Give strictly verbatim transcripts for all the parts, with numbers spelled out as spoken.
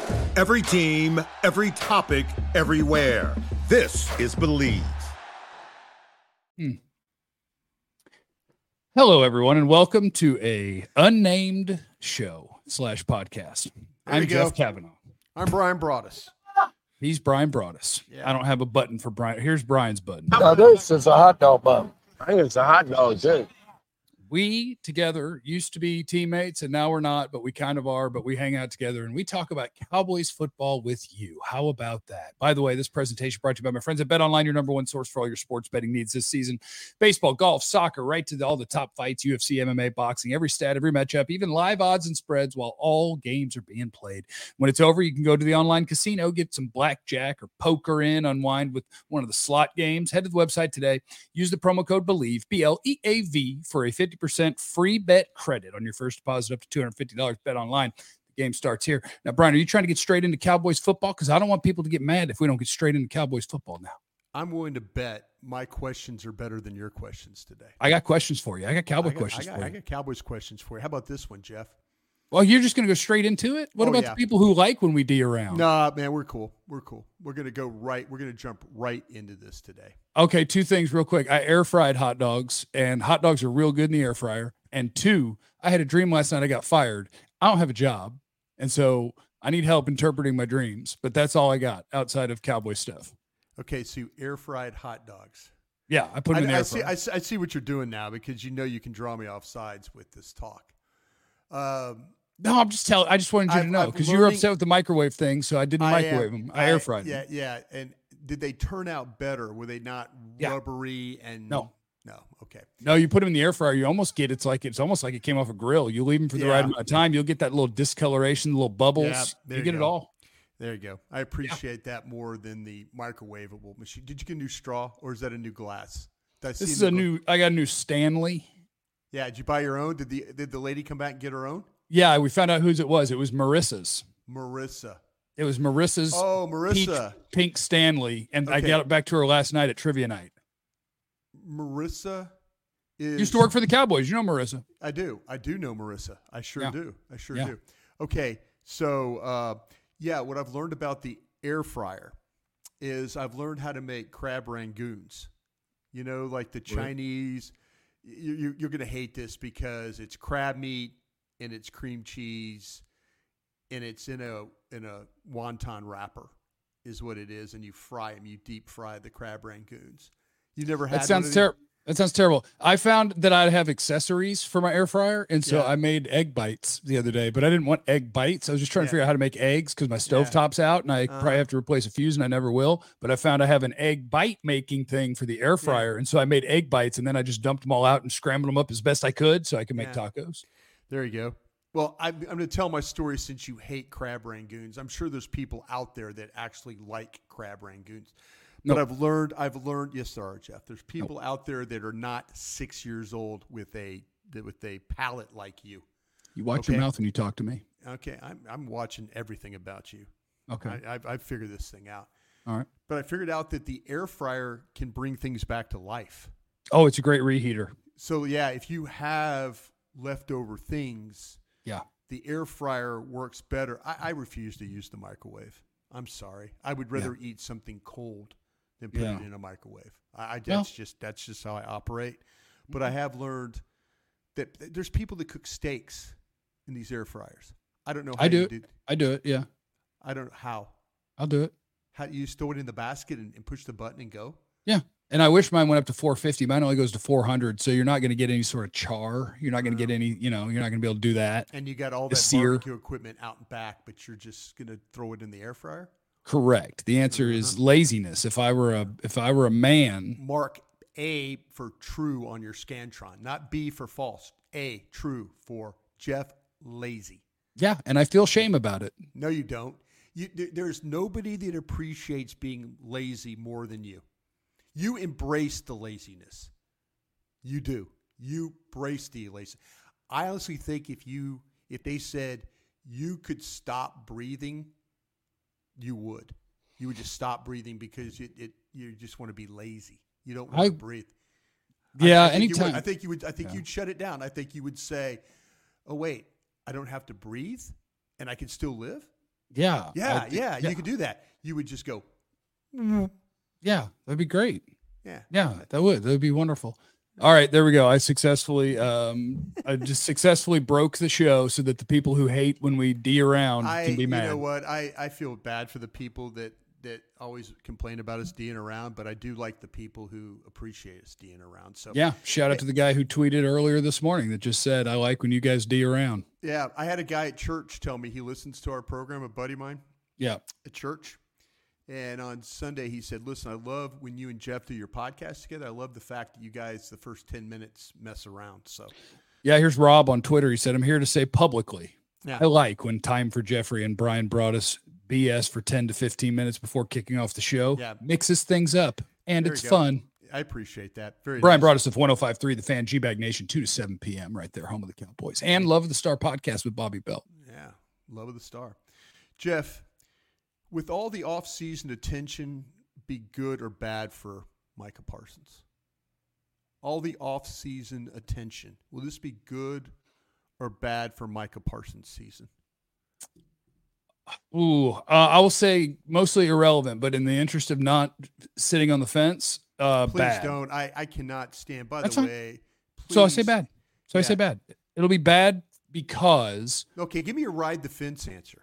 Every team, every topic, everywhere. This is Believe. Hmm. Hello, everyone, and welcome to a unnamed show slash podcast. There I'm you Jeff go. Kavanaugh. I'm Brian Broaddus. He's Brian Broaddus. Yeah. I don't have a button for Brian. Here's Brian's button. No, this is a hot dog bun. I think it's a hot dog, too. We together used to be teammates, and now we're not, but we kind of are, but we hang out together, and we talk about Cowboys football with you. How about that? By the way, this presentation brought to you by my friends at BetOnline, your number one source for all your sports betting needs this season. Baseball, golf, soccer, right to the, all the top fights, U F C, M M A, boxing, every stat, every matchup, even live odds and spreads while all games are being played. When it's over, you can go to the online casino, get some blackjack or poker in, unwind with one of the slot games. Head to the website today. Use the promo code BELIEVE, B L E A V, for a fifty percent free bet credit on your first deposit up to two hundred fifty dollars. Bet online. The game starts here. Now, Brian, are you trying to get straight into Cowboys football? Because I don't want people to get mad if we don't get straight into Cowboys football now. I'm willing to bet my questions are better than your questions today. I got questions for you. I got Cowboy I got, questions I got, for you. I got Cowboys questions for you. How about this one, Jeff? Well, you're just going to go straight into it? What Oh, about yeah. the people who like when we D around? Nah, man, we're cool. We're cool. We're going to go right. We're going to jump right into this today. Okay, two things real quick. I air fried hot dogs, and hot dogs are real good in the air fryer. And two, I had a dream last night. I got fired. I don't have a job, and so I need help interpreting my dreams. But that's all I got outside of Cowboy stuff. Okay, so you air fried hot dogs. Yeah, I put them in the I, I air see. fryer. I, see- I see what you're doing now because you know you can draw me off sides with this talk. Um, No, I'm just telling. I just wanted you I've- to know I've because you were learning- upset with the microwave thing, so I didn't I microwave am- them. I, air fried Yeah, them. yeah. And did they turn out better? Were they not Yeah. rubbery and No. No. Okay. No, you put them in the air fryer. You almost get it's like it's almost like it came off a grill. You leave them for the Yeah. right amount of time. You'll get that little discoloration, little bubbles. Yeah, there you you get it go. all. There you go. I appreciate that more than the microwavable machine. Did you get a new straw or is that a new glass? Did I see This is a gla- new. I got a new Stanley. Yeah. Did you buy your own? Did the did the lady come back and get her own? Yeah, we found out whose it was. It was Marissa's. Marissa. It was Marissa's. Oh, Marissa. Peach pink Stanley, and I Okay. got it back to her last night at trivia night. Marissa is Used to work for the Cowboys. You know Marissa. I do. I do know Marissa. I sure Yeah. do. I sure Yeah. do. Okay. So, uh, yeah, what I've learned about the air fryer is I've learned how to make crab rangoons. You know, like the Chinese. You, you, you're going to hate this because it's crab meat and it's cream cheese and it's in a in a wonton wrapper is what it is, and you fry them. You deep fry the crab rangoons. You never had That sounds one of these? terrible. That sounds terrible. I found that I'd have accessories for my air fryer, and so Yeah. I made egg bites the other day. But I didn't want egg bites. I was just trying Yeah. to figure out how to make eggs because my stovetop's out, and I Uh-huh. probably have to replace a fuse, and I never will. But I found I have an egg bite making thing for the air fryer, and so I made egg bites, and then I just dumped them all out and scrambled them up as best I could so I could make Yeah. tacos. There you go. Well, I'm, I'm going to tell my story since you hate crab rangoons. I'm sure there's people out there that actually like crab rangoons. But Nope. I've learned, I've learned, yes, there are, Jeff. There's people out there that are not six years old with a that- with a palate like you. You watch Okay. your mouth when you talk to me. Okay, I'm I'm watching everything about you. Okay. I, I've, I've figured this thing out. All right. But I figured out that the air fryer can bring things back to life. Oh, it's a great reheater. So yeah, if you have leftover things, Yeah. the air fryer works better. I, I refuse to use the microwave. I'm sorry. I would rather eat something cold than put Yeah. it in a microwave. I, I Well- that's just that's just how I operate. But I have learned that th- there's people that cook steaks in these air fryers. I don't know how I do you it. did. I do it. Yeah. I don't know how. I'll do it. How you throw it in the basket and, and push the button and go? Yeah. And I wish mine went up to four fifty. Mine only goes to four hundred. So you're not going to get any sort of char. You're not going to get any, you know, you're not going to be able to do that. And you got all The that sear. barbecue equipment out and back, but you're just gonna throw it in the air fryer? Correct. The answer is laziness. If I were a, if I were a man, Mark A for true on your Scantron, not B for false. A true for Jeff Lazy. yeah. And I feel shame about it. No, you don't. You, there- there's nobody that appreciates being lazy more than you. You embrace the laziness. You do. You embrace the lazy. I honestly think if you, if they said you could stop breathing, you would. You would just stop breathing because it, it you just want to be lazy. You don't want I- to breathe. Yeah. I think you would. anytime. I think you would. I think Yeah. you'd shut it down. I think you would say, "Oh wait, I don't have to breathe, and I can still live." Yeah. Yeah, I- yeah, you could do that. You would just go, Yeah, that'd be great. yeah. Yeah, that would. That would be wonderful. All right, there we go. I successfully, um, I just successfully broke the show so that the people who hate when we D around I, can be you mad. know what? I, I feel bad for the people that, that always complain about us D'ing around, but I do like the people who appreciate us D'ing around. So Yeah, shout out to the guy who tweeted earlier this morning that just said, "I like when you guys D around." yeah, I had a guy at church tell me he listens to our program, a buddy of mine Yeah, at church. And on Sunday, he said, listen, I love when you and Jeff do your podcast together. I love the fact that you guys, the first ten minutes, mess around. So, yeah. Here's Rob on Twitter. He said, "I'm here to say publicly, yeah. I like when Time for Jeffrey and Brian brought us B S for ten to fifteen minutes before kicking off the show. Yeah. Mixes things up, and There it's you go. fun." I appreciate that. Very Brian nice. brought us to one oh five point three The Fan, G-Bag Nation, two to seven p.m. right there, home of the Cowboys. And Love of the Star podcast with Bobby Bell. Yeah, love of the star. Jeff, with all the off-season attention, be good or bad for Micah Parsons? All the off-season attention, will this be good or bad for Micah Parsons' season? Ooh, uh, I will say mostly irrelevant, but in the interest of not sitting on the fence, uh, Please bad. don't. I, I cannot stand. By That's the fine. way, So I say please- bad. So I Yeah. say bad. It'll be bad because Okay, give me a ride the fence answer.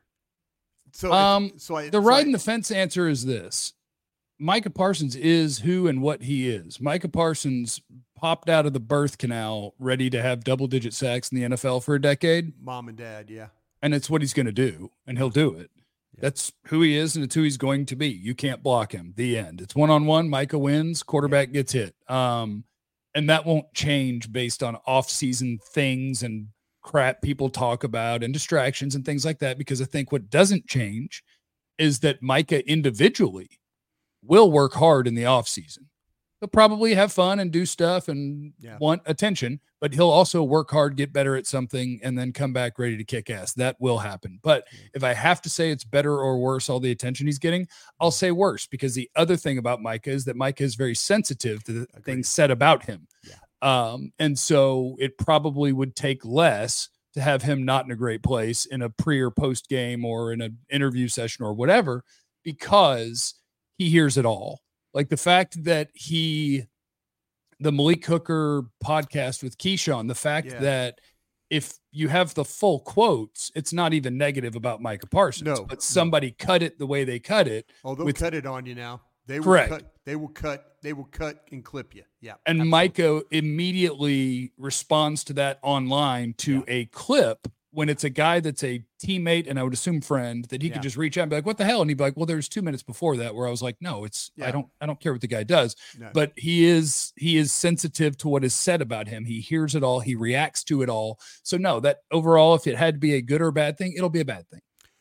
So, if- um, so I, the so ride I- in the fence answer is this. Micah Parsons is who and what he is. Micah Parsons popped out of the birth canal ready to have double-digit sacks in the N F L for a decade. mom and dad, yeah. And it's what he's going to do, and he'll do it. Yeah. That's who he is, and it's who he's going to be. You can't block him. The end. It's one-on-one. Micah wins. Quarterback gets hit. Um, and that won't change based on off-season things and crap people talk about and distractions and things like that, because I think what doesn't change is that Micah individually will work hard in the offseason. He'll probably have fun and do stuff and Yeah. want attention, but he'll also work hard, get better at something, and then come back ready to kick ass. That will happen. But if I have to say it's better or worse, all the attention he's getting, I'll say worse, because the other thing about Micah is that Micah is very sensitive to the Agreed. things said about him. Yeah. Um, and so it probably would take less to have him not in a great place in a pre or post game or in an interview session or whatever, because he hears it all. Like the fact that he, the Malik Hooker podcast with Keyshawn, the fact Yeah. that if you have the full quotes, it's not even negative about Micah Parsons, No, but no. somebody cut it the way they cut it. Oh, they'll with- cut it on you now. They will Correct. cut. They will cut. They will cut and clip you. Yeah. And absolutely. Micah immediately responds to that online to a clip when it's a guy that's a teammate and I would assume friend that he Yeah. could just reach out and be like, "What the hell?" And he'd be like, "Well, there's two minutes before that where I was like, no, it's I Yeah. don't I don't care what the guy does." No. But he is he is sensitive to what is said about him. He hears it all. He reacts to it all. So no, that overall, if it had to be a good or bad thing, it'll be a bad thing.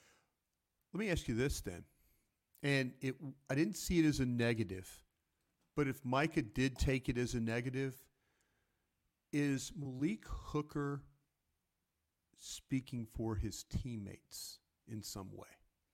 Let me ask you this then, and it. I didn't see it as a negative, but if Micah did take it as a negative, is Malik Hooker speaking for his teammates in some way?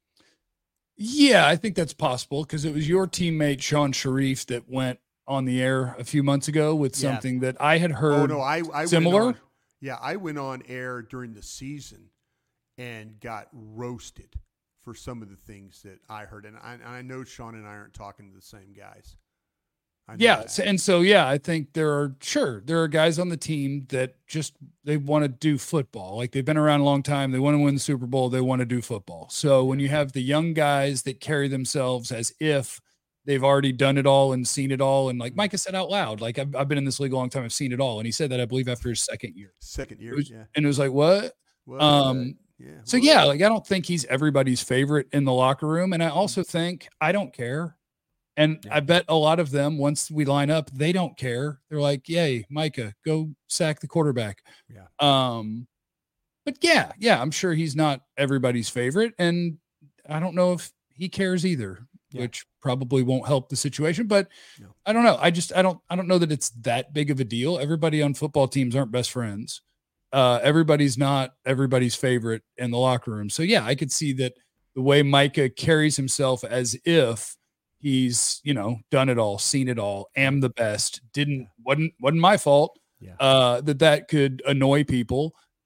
Yeah, I think that's possible because it was your teammate Sean Sharif that went on the air a few months ago with Yeah. something that I had heard. Oh no, I, I similar? Went on, yeah, I went on air during the season and got roasted for some of the things that I heard, and I, and I know Sean and I aren't talking to the same guys. I know Yeah, that. so- and so yeah, I think there are sure there are guys on the team that just they want to do football. Like they've been around a long time, they want to win the Super Bowl, they want to do football. So when you have the young guys that carry themselves as if they've already done it all and seen it all, and like Micah said out loud, like I've, I've been in this league a long time, I've seen it all, and he said that I believe after his second year. Second year, It was- yeah. And it was like what? What? um, yeah. So what? yeah, like I don't think he's everybody's favorite in the locker room, and I also think I don't care. And Yeah. I bet a lot of them, once we line up, they don't care. They're like, "Yay, Micah, go sack the quarterback." Yeah. Um, but yeah, yeah, I'm sure he's not everybody's favorite, and I don't know if he cares either, Yeah. which probably won't help the situation. But No. I don't know. I just I don't I don't know that it's that big of a deal. Everybody on football teams aren't best friends. Uh, everybody's not everybody's favorite in the locker room. So yeah, I could see that the way Micah carries himself as if he's, you know, done it all, seen it all, am the best, didn't wasn't wasn't my fault. Yeah. Uh, that that could annoy people.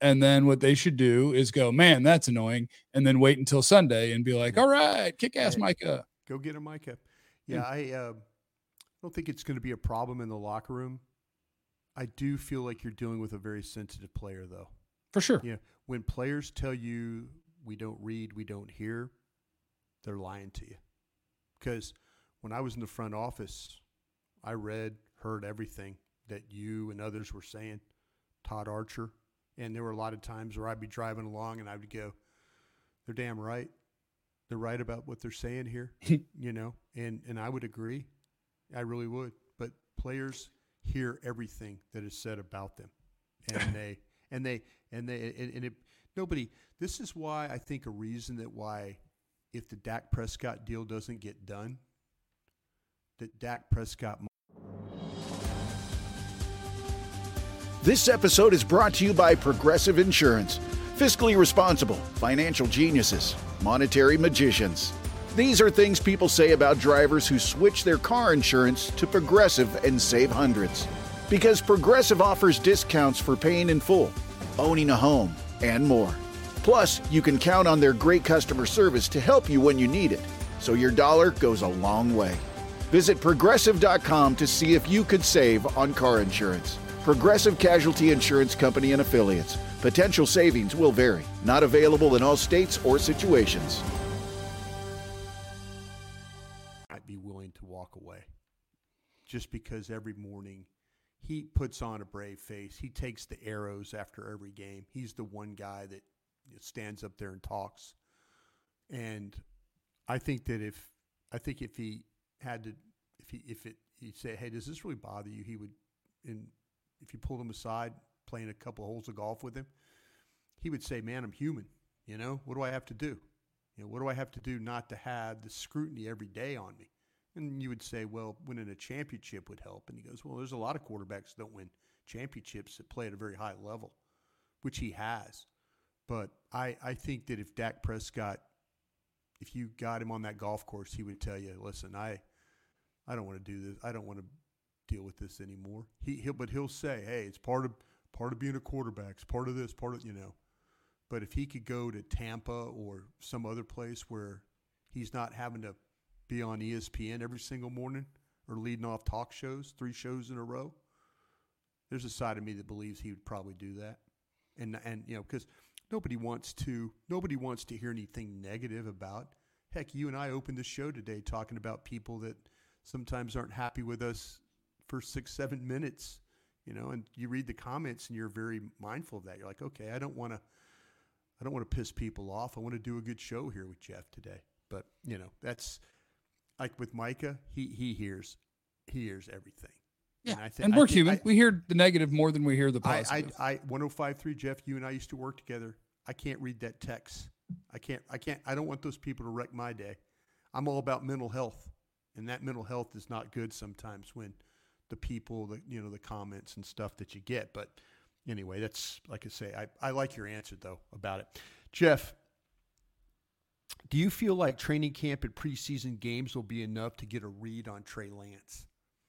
And then what they should do is go, man, that's annoying. And then wait until Sunday and be like, all right, kick ass, Micah. Go get him, Micah. Yeah, yeah. I uh, don't think it's going to be a problem in the locker room. I do feel like you're dealing with a very sensitive player, though. For sure. Yeah. When players tell you we don't read, we don't hear, they're lying to you. Because when I was in the front office, I read, heard everything that you and others were saying, Todd Archer. And there were a lot of times where I'd be driving along and I would go, they're damn right. They're right about what they're saying here, you know, and, and I would agree. I really would. But players hear everything that is said about them. And they, and they, and they, and, and it, nobody, this is why I think a reason that why if the Dak Prescott deal doesn't get done, that Dak Prescott. This episode is brought to you by Progressive Insurance. Fiscally responsible, financial geniuses, monetary magicians. These are things people say about drivers who switch their car insurance to Progressive and save hundreds. Because Progressive offers discounts for paying in full, owning a home, and more. Plus, you can count on their great customer service to help you when you need it, so your dollar goes a long way. Visit Progressive dot com to see if you could save on car insurance. Progressive Casualty Insurance Company and Affiliates. Potential savings will vary. Not available in all states or situations. I'd be willing to walk away just because every morning he puts on a brave face. He takes the arrows after every game. He's the one guy that stands up there and talks. And I think that if I think if he had to, if he if it he'd say, hey, does this really bother you? He would, in if you pulled him aside, playing a couple of holes of golf with him, he would say, man, I'm human. You know, what do I have to do? You know, what do I have to do not to have the scrutiny every day on me? And you would say, well, winning a championship would help. And he goes, well, there's a lot of quarterbacks that don't win championships that play at a very high level, which he has. But I, I think that if Dak Prescott, if you got him on that golf course, he would tell you, listen, I I don't want to do this. I don't want to deal with this anymore. He he'll but he'll say, hey, it's part of part of being a quarterback. It's part of this, part of, you know. But if he could go to Tampa or some other place where he's not having to be on E S P N every single morning or leading off talk shows, three shows in a row, there's a side of me that believes he would probably do that. And and you know, because nobody wants to nobody wants to hear anything negative about. Heck, you and I opened the show today talking about people that sometimes aren't happy with us for six, seven minutes, you know, and you read the comments and you're very mindful of that. You're like, okay, I don't want to, I don't want to piss people off. I want to do a good show here with Jeff today. But, you know, that's like with Micah, he, he hears, he hears everything. Yeah. And, I think, and we're I think human. I, we hear the negative more than we hear the positive. I, I, I, one oh five point three, Jeff, you and I used to work together. I can't read that text. I can't, I can't, I don't want those people to wreck my day. I'm all about mental health. And that mental health is not good sometimes when the people, the, you know, the comments and stuff that you get. But anyway, that's, like I say, I, I like your answer, though, about it. Jeff, do you feel like training camp and preseason games will be enough to get a read on Trey Lance?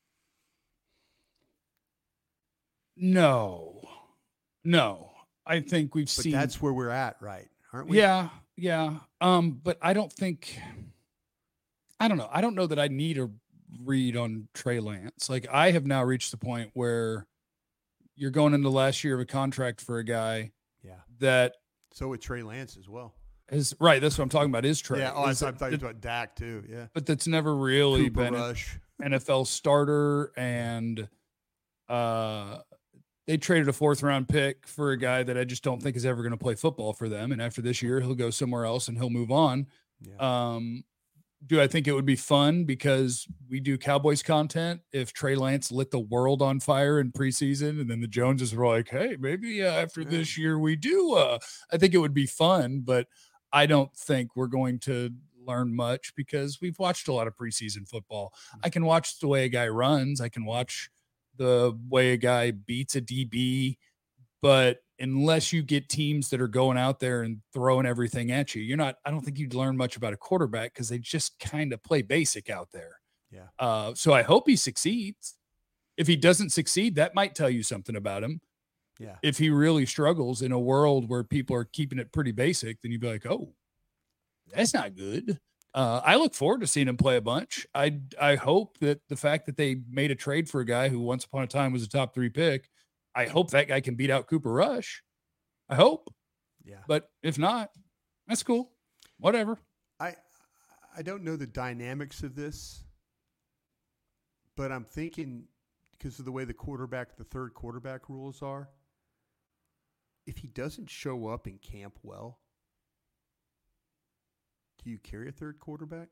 No. No. I think we've but seen. That's where we're at, right? Aren't we? Yeah. Yeah. Um, but I don't think, I don't know. I don't know that I need a read on Trey Lance. Like, I have now reached the point where you're going into the last year of a contract for a guy. Yeah. That. So with Trey Lance as well. Is right. That's what I'm talking about. Is Trey. Yeah. Oh, is I thought you it, were about Dak too. Yeah. But that's never really Cooper been Rush. an N F L starter. And, uh, they traded a fourth round pick for a guy that I just don't think is ever going to play football for them. And after this year, he'll go somewhere else and he'll move on. Yeah. Um, do I think it would be fun because we do Cowboys content if Trey Lance lit the world on fire in preseason and then the Joneses were like, hey, maybe uh, after yeah. this year we do. Uh, I think it would be fun, but I don't think we're going to learn much because we've watched a lot of preseason football. I can watch the way a guy runs. I can watch the way a guy beats a D B, but unless you get teams that are going out there and throwing everything at you, you're not, I don't think you'd learn much about a quarterback because they just kind of play basic out there. Yeah. Uh, so I hope he succeeds. If he doesn't succeed, that might tell you something about him. Yeah. If he really struggles in a world where people are keeping it pretty basic, then you'd be like, oh, that's not good. Uh, I look forward to seeing him play a bunch. I I hope that the fact that they made a trade for a guy who once upon a time was a top three pick, I hope that guy can beat out Cooper Rush. I hope. Yeah. But if not, that's cool. Whatever. I I don't know the dynamics of this, but I'm thinking because of the way the quarterback, the third quarterback rules are, if he doesn't show up in camp well, do you carry a third quarterback?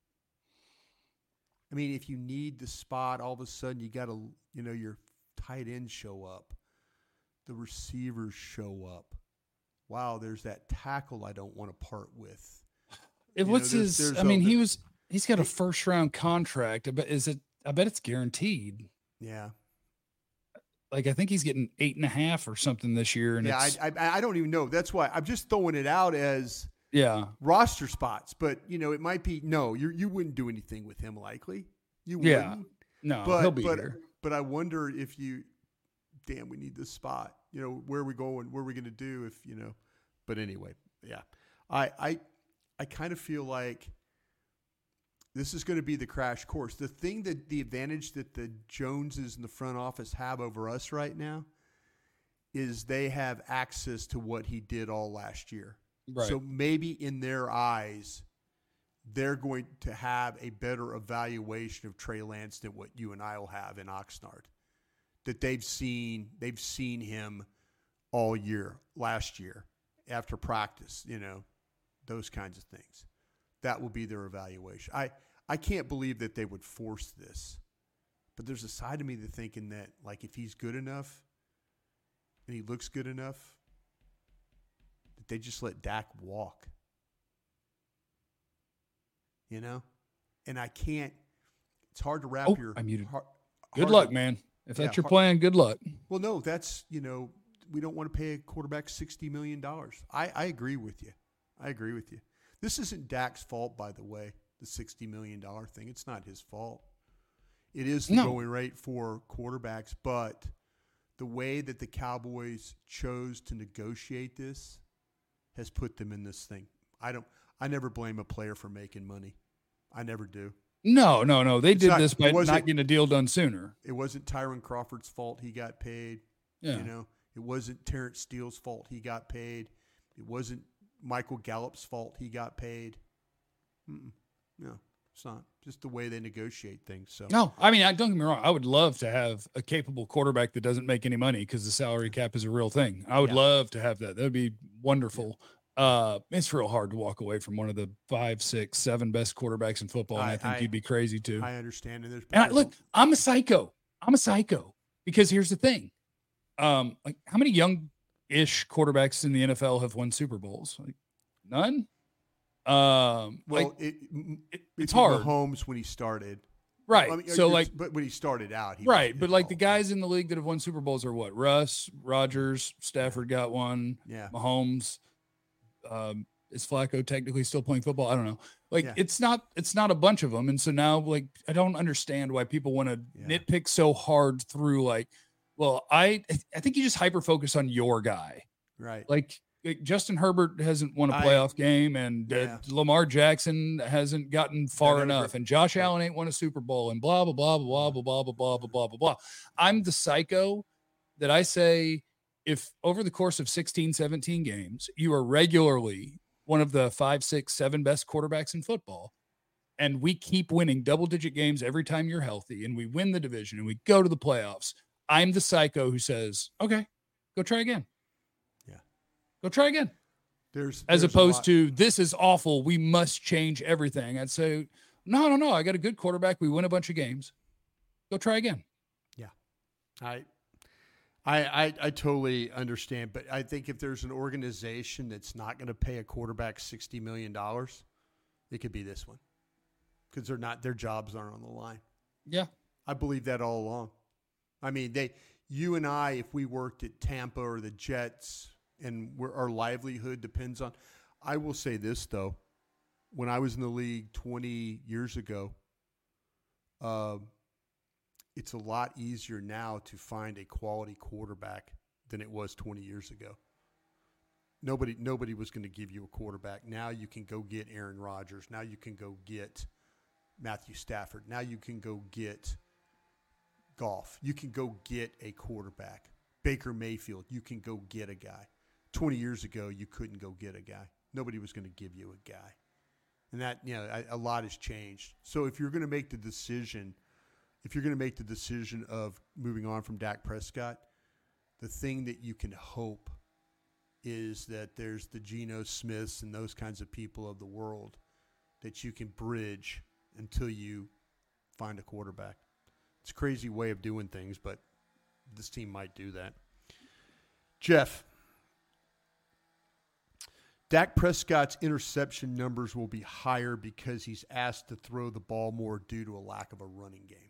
I mean, if you need the spot, all of a sudden you got to, you know, your tight ends show up, the receivers show up. Wow, there's that tackle I don't want to part with. It, what's know, there's, his? there's I mean, a, he was. He's got a first round contract. I bet is it? I bet it's guaranteed. Yeah. Like I think he's getting eight and a half or something this year. And yeah, it's, I, I I don't even know. That's why I'm just throwing it out as yeah roster spots. But you know, it might be no. You you wouldn't do anything with him likely. You yeah wouldn't. no But he'll be but here. but I wonder if you. Damn, we need this spot. You know, where are we going? What are we going to do if you know? But anyway, yeah, I I I kind of feel like this is going to be the crash course. The thing that the advantage that the Joneses in the front office have over us right now is they have access to what he did all last year. Right. So maybe in their eyes, they're going to have a better evaluation of Trey Lance than what you and I will have in Oxnard. That they've seen, they've seen him all year, last year, after practice, you know, those kinds of things. That will be their evaluation. I, I can't believe that they would force this, but there's a side of me that's thinking that, like, if he's good enough and he looks good enough, that they just let Dak walk. You know? And I can't, it's hard to wrap Oh, your. I muted. Hard, Good hard luck, to, man. If yeah, that's your hard, plan, good luck. Well, no, that's, you know, we don't want to pay a quarterback sixty million dollars. I, I agree with you. I agree with you. This isn't Dak's fault, by the way, the sixty million dollars thing. It's not his fault. It is the No. going rate for quarterbacks, but the way that the Cowboys chose to negotiate this has put them in this thing. I don't. I never blame a player for making money. I never do. No, no, no. They It's did not- this by it wasn't- not getting a deal done sooner. It wasn't Tyron Crawford's fault he got paid. Yeah. You know, it wasn't Terrence Steele's fault he got paid. It wasn't Michael Gallup's fault he got paid. Mm-mm. No, it's not. Just the way they negotiate things. So No, I mean, I, don't get me wrong. I would love to have a capable quarterback that doesn't make any money because the salary cap is a real thing. I would Yeah. love to have that. That would be wonderful. Uh, it's real hard to walk away from one of the five, six, seven best quarterbacks in football, and I, I- think I- you'd be crazy too. I understand. And there's And I, there's- look, I'm a psycho. I'm a psycho because here's the thing. Um, like how many young-ish quarterbacks in the N F L have won Super Bowls? Like none. Um, well, like it, m- it, it it's was hard, Mahomes when he started. right? I mean, so you're- like, but when he started out, he right, was but like the involved. guys in the league that have won Super Bowls are what? Russ, Rodgers, Stafford got one. Yeah. Mahomes. Um, is Flacco technically still playing football? I don't know. Like Yeah. it's not, it's not a bunch of them. And so now, like, I don't understand why people want to Yeah. nitpick so hard through. Like, well, I, I think you just hyper focus on your guy. Right. Like, like Justin Herbert hasn't won a I- playoff game, and uh, Yeah. Lamar Jackson hasn't gotten far That enough, ever- and Josh Right. Allen ain't won a Super Bowl, and blah blah blah blah blah blah blah blah blah blah blah blah. I'm the psycho that I say if over the course of sixteen, seventeen games, you are regularly one of the five, six, seven best quarterbacks in football, and we keep winning double digit games every time you're healthy, and we win the division and we go to the playoffs. I'm the psycho who says, okay, go try again. Yeah. Go try again. There's As there's a opposed lot- to this is awful. We must change everything. I'd say, no, no, no. I got a good quarterback. We win a bunch of games. Go try again. I, I, I, I totally understand, but I think if there's an organization that's not going to pay a quarterback sixty million dollars, it could be this one, because they're not, their jobs aren't on the line. Yeah. I believe that all along. I mean, they, you and I, if we worked at Tampa or the Jets, and we're, our livelihood depends on. I will say this though, when I was in the league twenty years ago, uh, it's a lot easier now to find a quality quarterback than it was twenty years ago. Nobody nobody was going to give you a quarterback. Now you can go get Aaron Rodgers. Now you can go get Matthew Stafford. Now you can go get Goff. You can go get a quarterback. Baker Mayfield, you can go get a guy. twenty years ago, you couldn't go get a guy. Nobody was going to give you a guy. And that, you know, a, a lot has changed. So if you're going to make the decision, if you're going to make the decision of moving on from Dak Prescott, the thing that you can hope is that there's the Geno Smiths and those kinds of people of the world that you can bridge until you find a quarterback. It's a crazy way of doing things, but this team might do that. Jeff, Dak Prescott's interception numbers will be higher because he's asked to throw the ball more due to a lack of a running game.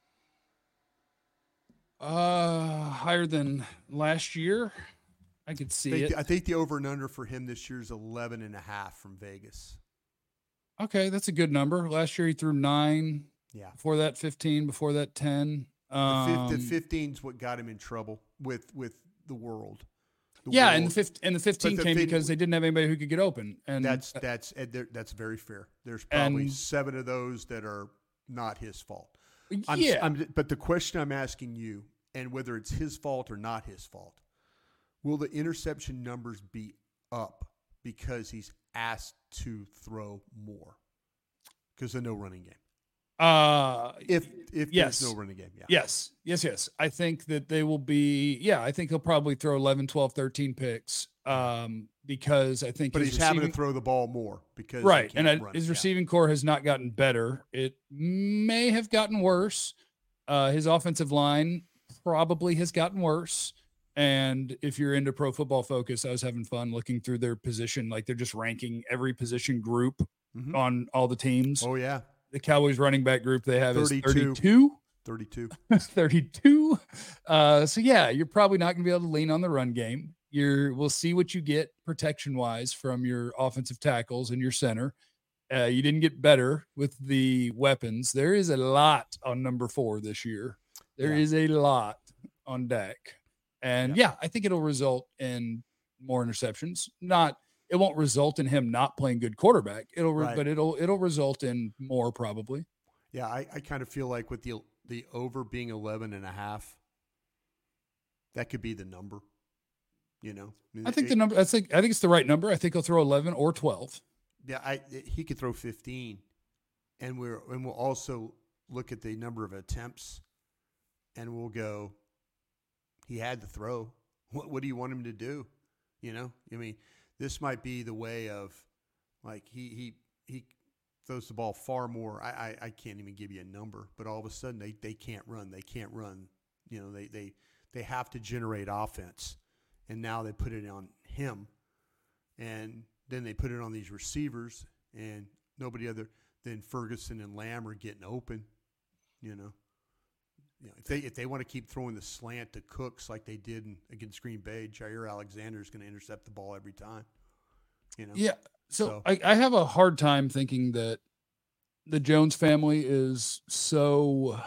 Uh, higher than last year. I could see I think, it. the, I think the over and under for him this year is eleven and a half from Vegas. Okay, that's a good number. Last year he threw nine. Yeah. Before that, fifteen. Before that, ten. Um, the fifteen is what got him in trouble with with the world. The yeah, world. and the fifteen, and the fifteen the came fin- because they didn't have anybody who could get open. And That's that's that's very fair. There's probably And- seven of those that are not his fault. I'm, yeah, I'm, but the question I'm asking you, and whether it's his fault or not his fault, will the interception numbers be up because he's asked to throw more? Because there's no running game. uh, If if Yes. there's no running game, yeah. yes, yes, yes. I think that they will be. Yeah, I think he'll probably throw eleven, twelve, thirteen picks. Um, because I think But his he's having receiving- to throw the ball more because he right, and can't uh, run his it. Yeah. receiving core has not gotten better. It may have gotten worse. Uh, his offensive line probably has gotten worse. And if you're into Pro Football Focus, I was having fun looking through their position. Like they're just ranking every position group Mhm. on all the teams. Oh yeah, The Cowboys running back group they have thirty-two. is thirty-two. thirty-two. thirty-two. Uh, so yeah, you're probably not going to be able to lean on the run game. You're, we'll see what you get protection wise from your offensive tackles and your center. Uh, you didn't get better with the weapons. There is a lot on number four this year. There Yeah. is a lot on Dak. And yeah. I think it'll result in more interceptions. Not, it won't result in him not playing good quarterback. It'll, re- Right. but it'll, it'll result in more probably. Yeah, I, I kind of feel like with the the over being eleven and a half, that could be the number. You know, mean, I think it- the number, I think, I think it's the right number. I think he'll throw eleven or twelve. Yeah, I he could throw fifteen, and we're and we'll also look at the number of attempts, and we'll go. He had to throw. What what do you want him to do? You know, I mean, this might be the way of, like he he he throws the ball far more. I I, I can't even give you a number, but all of a sudden they, they can't run. They can't run. You know, they they they have to generate offense, and now they put it on him, and then they put it on these receivers, and nobody other than Ferguson and Lamb are getting open. You know, you know if they if they want to keep throwing the slant to Cooks like they did in, against Green Bay, Jair Alexander is going to intercept the ball every time. You know, Yeah. So, So- I, I have a hard time thinking that the Jones family is so.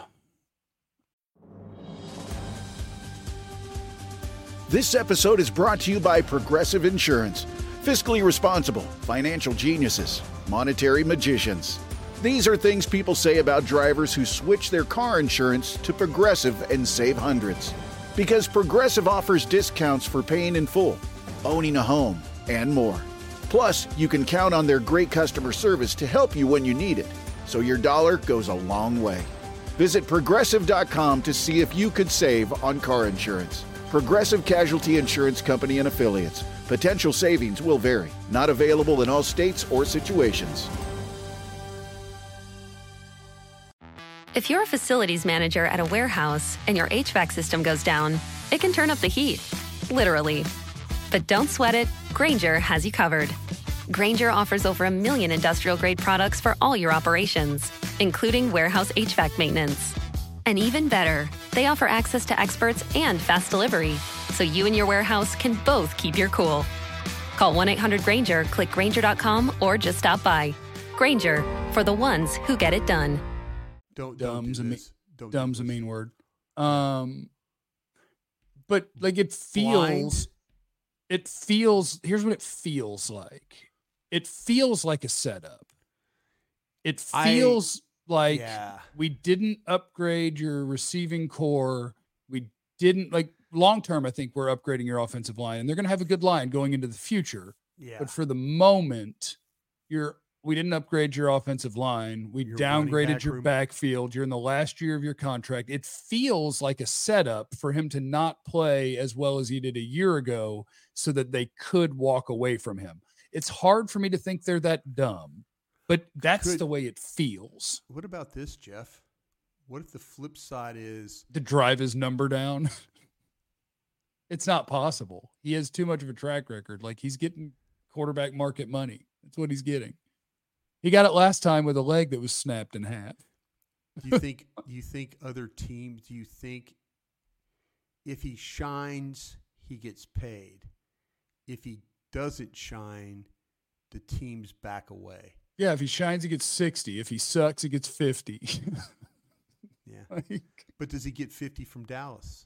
This episode is brought to you by Progressive Insurance. Fiscally responsible, financial geniuses, monetary magicians. These are things people say about drivers who switch their car insurance to Progressive and save hundreds. Because Progressive offers discounts for paying in full, owning a home, and more. Plus, you can count on their great customer service to help you when you need it, so your dollar goes a long way. Visit Progressive dot com to see if you could save on car insurance. Progressive Casualty Insurance Company and Affiliates. Potential savings will vary. Not available in all states or situations. If you're a facilities manager at a warehouse and your H V A C system goes down, it can turn up the heat, literally. But don't sweat it, Grainger has you covered. Grainger offers over a million industrial-grade products for all your operations, including warehouse H V A C maintenance. And even better, they offer access to experts and fast delivery, so you and your warehouse can both keep your cool. Call one eight hundred Grainger, click Grainger dot com, or just stop by. Grainger, for the ones who get it done. don't don't do Dumb's a, me- this. Don't do dumb's a this. mean word. Um, but like it feels, Blind? it feels, here's what it feels like. It feels like a setup. It feels I, like yeah. we didn't upgrade your receiving core. We didn't like long term. I think we're upgrading your offensive line, and they're going to have a good line going into the future. Yeah. But for the moment, you're we didn't upgrade your offensive line. We Your downgraded running back your room. backfield. You're in the last year of your contract. It feels like a setup for him to not play as well as he did a year ago so that they could walk away from him. It's hard for me to think they're that dumb, but that's Could- the way it feels. What about this, Jeff? What if the flip side is To drive his number down. It's not possible. He has too much of a track record. Like he's getting quarterback market money. That's what he's getting. He got it last time with a leg that was snapped in half. do you think do you think other teams, do you think if he shines, he gets paid? If he doesn't shine, the teams back away. Yeah, if he shines, he gets sixty. If he sucks, he gets fifty. Yeah. Like, But does he get fifty from Dallas?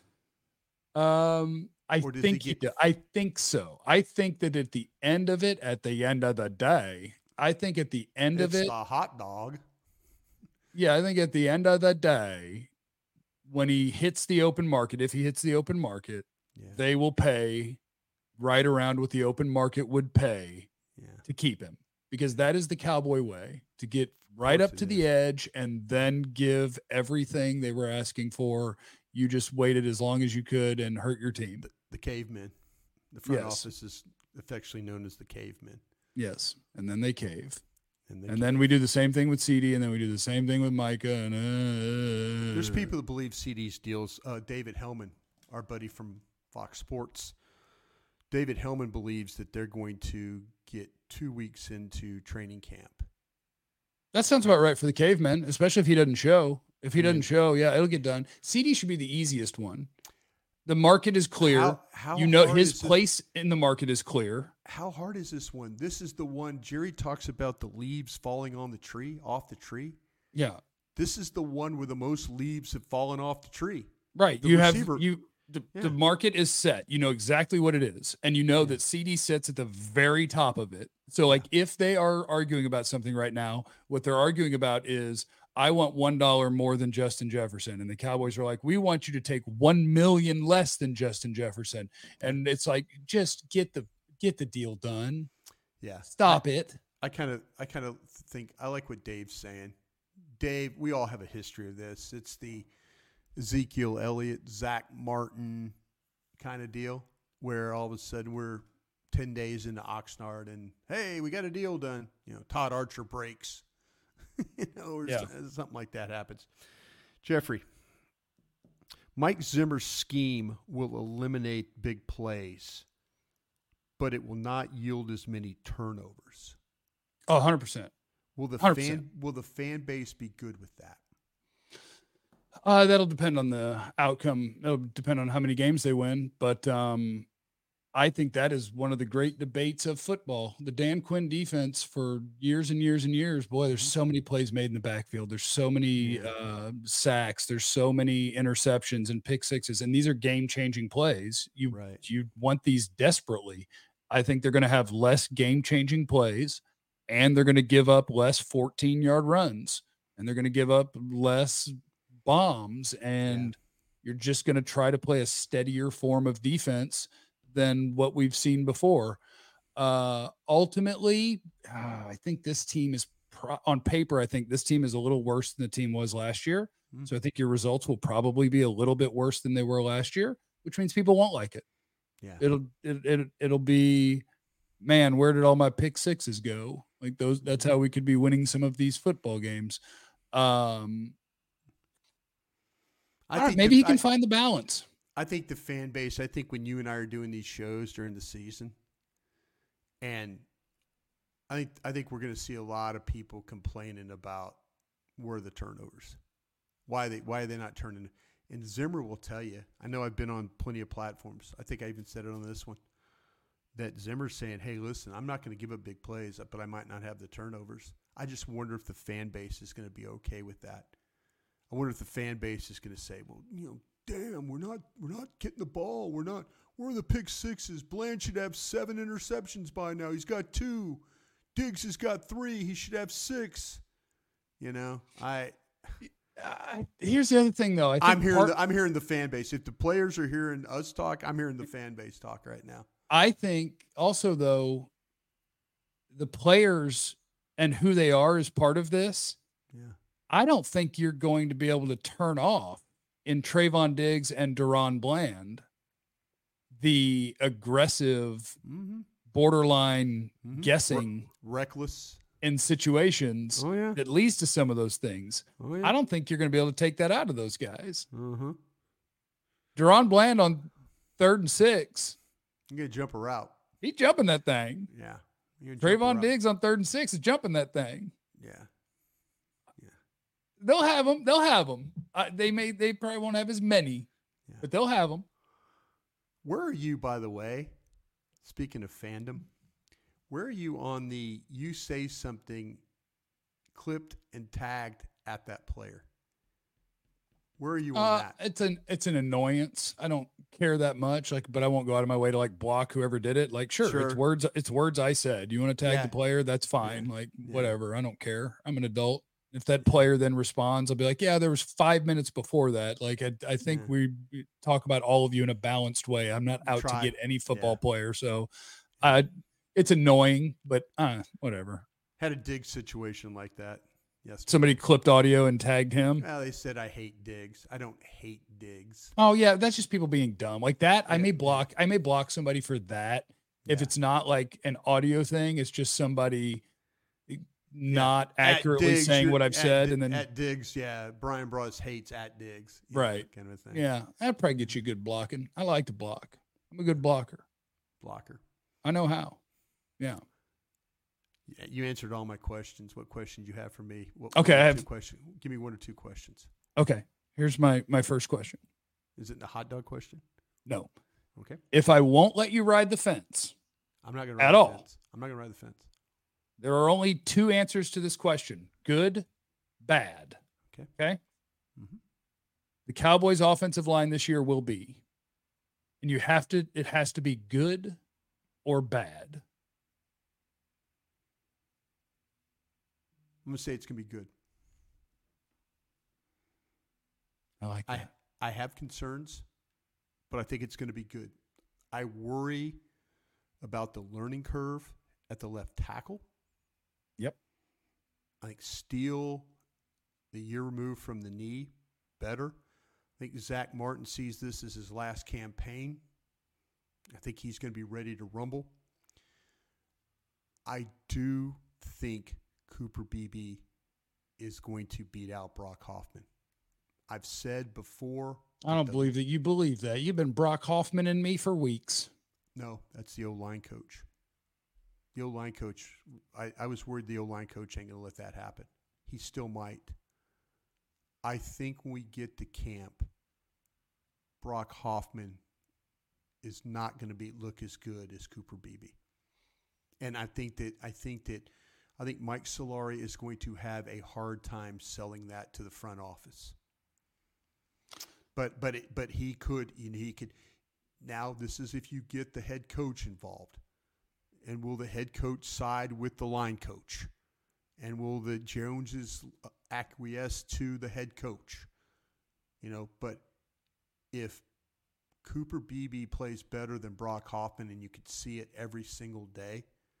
um, I Or does he think he get- do- I think so. I think that at the end of it, at the end of the day, I think at the end It's of it, a hot dog. yeah, I think at the end of the day, when he hits the open market, if he hits the open market, Yeah. they will pay right around what the open market would pay yeah. to keep him, because that is the Cowboy way, to get right course up it to the is. edge and then give everything they were asking for. You just waited as long as you could and hurt your team. The, the cavemen. The front Yes. office is affectionately known as the cavemen. Yes. And then they cave. And, they And ca- then we do the same thing with C D, and then we do the same thing with Micah. And uh, there's people that believe C D's deals. Uh, David Hellman, our buddy from Fox Sports, David Hellman believes that they're going to get two weeks into training camp. That sounds about right for the cavemen, especially if he doesn't show. If he I mean- doesn't show, yeah, it'll get done. C D should be the easiest one. The market is clear. How, how you know hard his is this- place in the market is clear. How hard is this one? This is the one Jerry talks about, the leaves falling on the tree, off the tree. Yeah. This is the one where the most leaves have fallen off the tree. Right. The you receiver- have you the, Yeah. the market is set. You know exactly what it is. And you know that C D sits at the very top of it. So like if they are arguing about something right now, what they're arguing about is I want one dollar more than Justin Jefferson. And the Cowboys are like, we want you to take one million less than Justin Jefferson. And it's like, just get the get the deal done. Yeah. Stop it. I kind of I kind of think I like what Dave's saying. Dave, we all have a history of this. It's the Ezekiel Elliott, Zach Martin kind of deal where all of a sudden we're ten days into Oxnard and, hey, we got a deal done. You know, Todd Archer breaks. you know, or Yeah. so- something like that happens. Jeffrey, Mike Zimmer's scheme will eliminate big plays, but it will not yield as many turnovers. Oh, one hundred percent. Will the one hundred percent. fan will the fan base be good with that? Uh, that'll depend on the outcome. It'll depend on how many games they win. But um, I think that is one of the great debates of football. The Dan Quinn defense for years and years and years. Boy, there's so many plays made in the backfield. There's so many uh, sacks. There's so many interceptions and pick sixes. And these are game-changing plays. You, Right. you want these desperately. I think they're going to have less game-changing plays, and they're going to give up less fourteen-yard runs, and they're going to give up less bombs, and you're just going to try to play a steadier form of defense than what we've seen before. Uh, ultimately, uh, I think this team is pro- on paper. I think this team is a little worse than the team was last year. Mm. So I think your results will probably be a little bit worse than they were last year, which means people won't like it. Yeah. It'll, it, it, it'll be, man, where did all my pick sixes go? Like those, that's how we could be winning some of these football games. Um, I All right, think maybe the, he can I, find the balance. I think the fan base, I think when you and I are doing these shows during the season, and I think I think we're going to see a lot of people complaining about where the turnovers. Why they why are they not turning? And Zimmer will tell you. I know I've been on plenty of platforms. I think I even said it on this one. That Zimmer's saying, "Hey, listen, I'm not going to give up big plays, but I might not have the turnovers." I just wonder if the fan base is going to be okay with that. I wonder if the fan base is going to say, "Well, you know, damn, we're not we're not getting the ball. We're not. Where are the pick sixes? Bland should have seven interceptions by now. He's got two. Diggs has got three. He should have six. You know, I. Uh, here's the other thing, though. I think I'm hearing part, the, I'm hearing the fan base. If the players are hearing us talk, I'm hearing the fan base talk right now. I think also, though, the players and who they are is part of this. Yeah. I don't think you're going to be able to turn off in Trayvon Diggs and Deron Bland the aggressive, Mm-hmm. borderline Mm-hmm. guessing Re- reckless in situations Oh, yeah. that leads to some of those things. Oh, yeah. I don't think you're going to be able to take that out of those guys. Uh-huh. Deron Bland on third and six, You get to jump a route. he's jumping that thing. Yeah. You're gonna jump a Trayvon route. Diggs on third and six is jumping that thing. Yeah. They'll have them. They'll have them. Uh, they may. They probably won't have as many, Yeah. but they'll have them. Where are you, by the way? Speaking of fandom, where are you on the you say something clipped and tagged at that player? Where are you on Uh, that? it's an it's an annoyance. I don't care that much. Like, but I won't go out of my way to like block whoever did it. Like, sure, Sure. it's words. It's words I said. You want to tag Yeah. the player? That's fine. Yeah. Like, Yeah. whatever. I don't care. I'm an adult. If that player then responds, I'll be like, yeah, there was five minutes before that. Like, I, I think Yeah. we we talk about all of you in a balanced way. I'm not out Try. to get any football Yeah. player. So, uh, it's annoying, but uh, whatever. Had a dig situation like that. Yes. Somebody clipped audio and tagged him. Well, they said I hate Diggs. I don't hate Diggs. Oh yeah, that's just people being dumb. Like that, I Yeah. may block. I may block somebody for that. If Yeah. it's not like an audio thing, it's just somebody not At accurately Diggs, saying you're- what I've at said, Di- and then at Diggs, yeah, Brian Bros hates at Diggs, you know, Right. kind of a thing. yeah, that'd probably get you good blocking. I like to block. I'm a good blocker. Blocker. I know how. Yeah. Yeah, you answered all my questions. What questions you have for me? What, Okay, one or I two have- question. Give me one or two questions. Okay. Here's my my first question. Is it the hot dog question? No. Okay. If I won't let you ride the fence, I'm not going At to ride the all. fence. I'm not going to ride the fence. there are only two answers to this question: good, bad. Okay. Okay. Mhm. The Cowboys' offensive line this year will be, and you have to. It has to be good or bad. I'm going to say it's going to be good. I like I that. I have concerns, but I think it's going to be good. I worry about the learning curve at the left tackle. Yep. I think Steele, the year removed from the knee, better. I think Zach Martin sees this as his last campaign. I think he's going to be ready to rumble. I do think Cooper Beebe is going to beat out Brock Hoffman. I've said before. I don't the- believe that you believe that. You've been Brock Hoffman and me for weeks. No, that's the O-line coach. The O-line coach, I, I was worried the O-line coach ain't going to let that happen. He still might. I think when we get to camp, Brock Hoffman is not going to be look as good as Cooper Beebe. And I think that I think that I think Mike Solari is going to have a hard time selling that to the front office. But but it, but he could you know, he could now this is if you get the head coach involved. And will the head coach side with the line coach? And will the Joneses acquiesce to the head coach? You know, but if Cooper Beebe plays better than Brock Hoffman and you could see it every single day,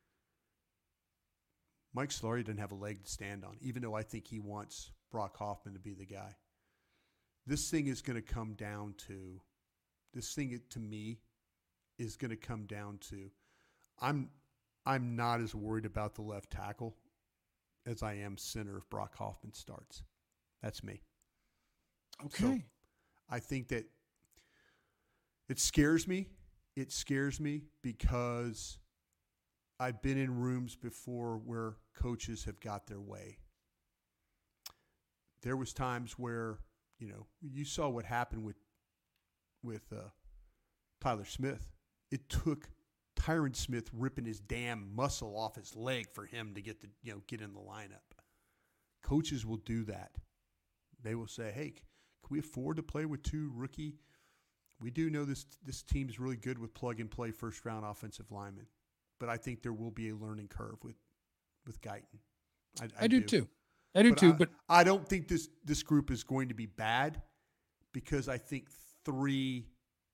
Mike Solari doesn't have a leg to stand on, even though I think he wants Brock Hoffman to be the guy. This thing is going to come down to, this thing to me is going to come down to, I'm I'm not as worried about the left tackle as I am center if Brock Hoffman starts. That's me. Okay. So I think that it scares me. It scares me because I've been in rooms before where coaches have got their way. There was times where, you know, you saw what happened with with uh, Tyler Smith. It took Tyron Smith ripping his damn muscle off his leg for him to get the you know get in the lineup. Coaches will do that. They will say, "Hey, can we afford to play with two rookie? We do know this this team's really good with plug and play first round offensive linemen, but I think there will be a learning curve with with Guyton. I, I, I do, do too. I do but too. I, But I don't think this this group is going to be bad because I think three.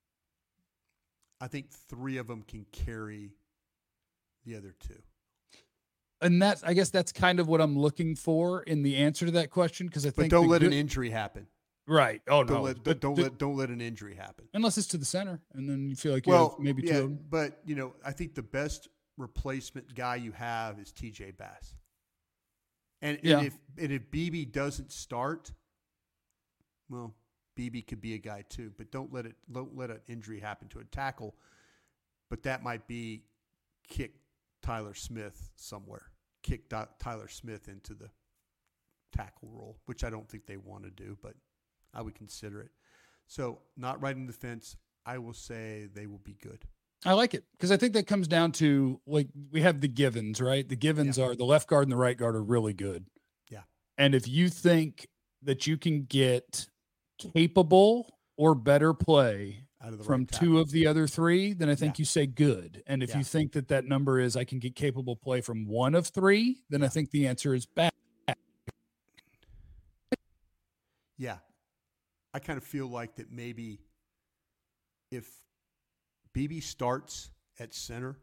I think three of them can carry the other two. And that's, I guess that's kind of what I'm looking for in the answer to that question. Cause I But think, don't let good, an injury happen. right. Oh Don't no, let but don't the, let don't let an injury happen. unless it's to the center, and then you feel like you Well, have maybe yeah, two of them. but you know, I think the best replacement guy you have is T J Bass. And, Yeah. and if and if B B doesn't start, well, B B could be a guy too. But don't let it don't let an injury happen to a tackle. But that might be kick Tyler Smith somewhere. Kick Do- Tyler Smith into the tackle role, which I don't think they want to do, but I would consider it. So not riding the fence, I will say they will be good. I like it because I think that comes down to, like, we have the givens, right? The givens Yeah. are the left guard and the right guard are really good. Yeah. And if you think that you can get capable or better play Out of the from right two tackle. of the other three, then I think Yeah. you say good. And if Yeah. you think that that number is I can get capable play from one of three, then I think the answer is bad. Yeah. I kind of feel like that maybe if B B starts at center,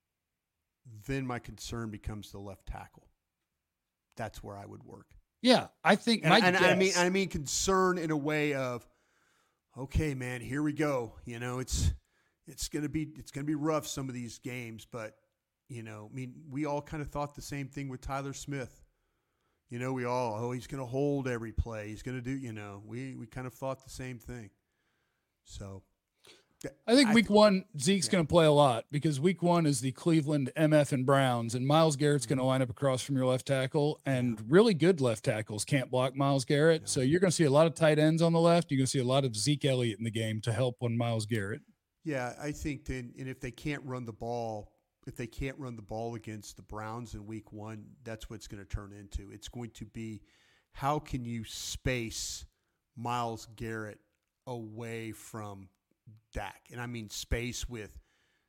then my concern becomes the left tackle. That's where I would work. Yeah, I think And, my and I mean guess- I mean concern in a way of, okay, man, here we go. You know, it's it's gonna be it's gonna be rough some of these games, but you know, I mean, we all kind of thought the same thing with Tyler Smith. You know, we all, oh, he's going to hold every play. He's going to do, you know, we, we kind of thought the same thing. So I think I week th- one, Zeke's yeah. going to play a lot because week one is the Cleveland M F and Browns, and Myles Garrett's going to line up across from your left tackle, and really good left tackles can't block Myles Garrett. Yeah. So you're going to see a lot of tight ends on the left. You're going to see a lot of Zeke Elliott in the game to help on Myles Garrett. yeah, I think then, and if they can't run the ball, if they can't run the ball against the Browns in week one, that's what it's going to turn into. It's going to be, how can you space Myles Garrett away from Dak? And I mean space with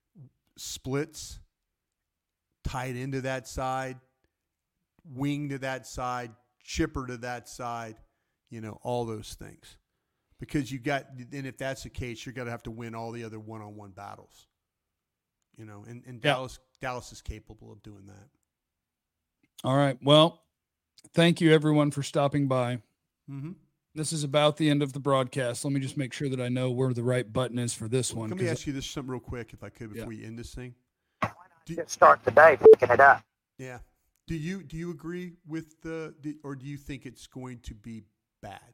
splits, tight into that side, wing to that side, chipper to that side, you know, all those things. Because you got, and if that's the case, you're going to have to win all the other one-on-one battles. You know, and, and Yeah. Dallas Dallas is capable of doing that. All right. Well, thank you everyone for stopping by. Mm-hmm. This is about the end of the broadcast. Let me just make sure that I know where the right button is for this one. Let me 'cause- ask you this something real quick, if I could, before Yeah. you end this thing. Get start the day picking it up. Yeah. Do you do you agree with the, the or do you think it's going to be bad?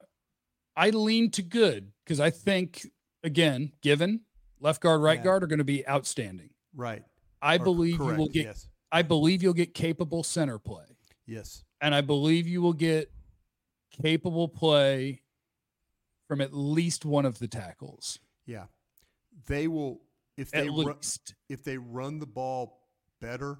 I lean to good because I think, again, given left guard, right Yeah. guard are going to be outstanding. Right. I Or believe you correct, will get. Yes. I believe you'll get capable center play, Yes. and I believe you will get capable play from at least one of the tackles. Yeah. They will if At they run, least. if they run the ball better,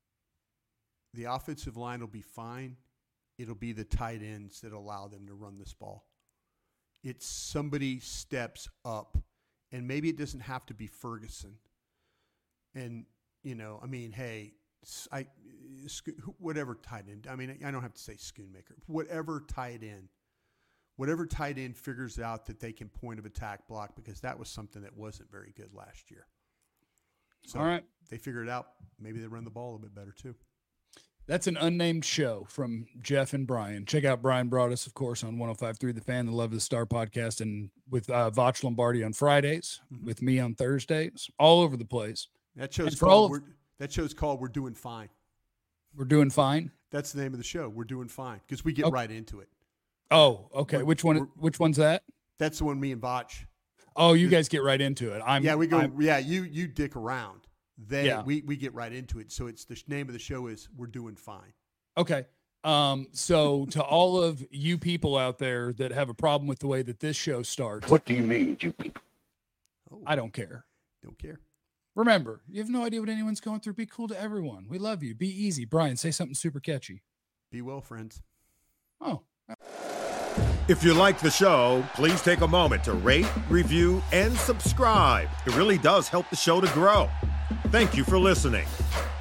the offensive line will be fine. It'll be the tight ends that allow them to run this ball. It's somebody steps up, and maybe it doesn't have to be Ferguson. And, you know, I mean, hey, I whatever tight end. I mean, I don't have to say Schoonmaker. Whatever tight end. Whatever tight end figures out that they can point of attack block, because that was something that wasn't very good last year. So All right. they figure it out. Maybe they run the ball a bit better too. That's an unnamed show from Jeff and Brian. Check out Brian Broaddus, of course, on one oh five point three The Fan, the Love of the Star podcast, and with uh, Vach Lombardi on Fridays, Mhm. with me on Thursdays, all over the place. That show's And for all called. of- We're, that show's called "We're Doing Fine." We're doing fine. That's the name of the show. We're doing fine because we get Okay. right into it. Oh, okay. We're- Which one? we're- Which one's that? That's the one me and Vach. Oh, you guys get right into it. I'm yeah, we go. I'm- yeah, you you dick around. They Yeah. we we get right into it. So it's the sh- name of the show is "We're Doing Fine." Okay. Um, so to all of you people out there that have a problem with the way that this show starts, What do you mean, you people? Oh, I don't care. don't care. Remember, you have no idea what anyone's going through. Be cool to everyone. We love you. Be easy. Brian, say something super catchy. Be well, friends. Oh. If you like the show, please take a moment to rate, review, and subscribe. It really does help the show to grow. Thank you for listening.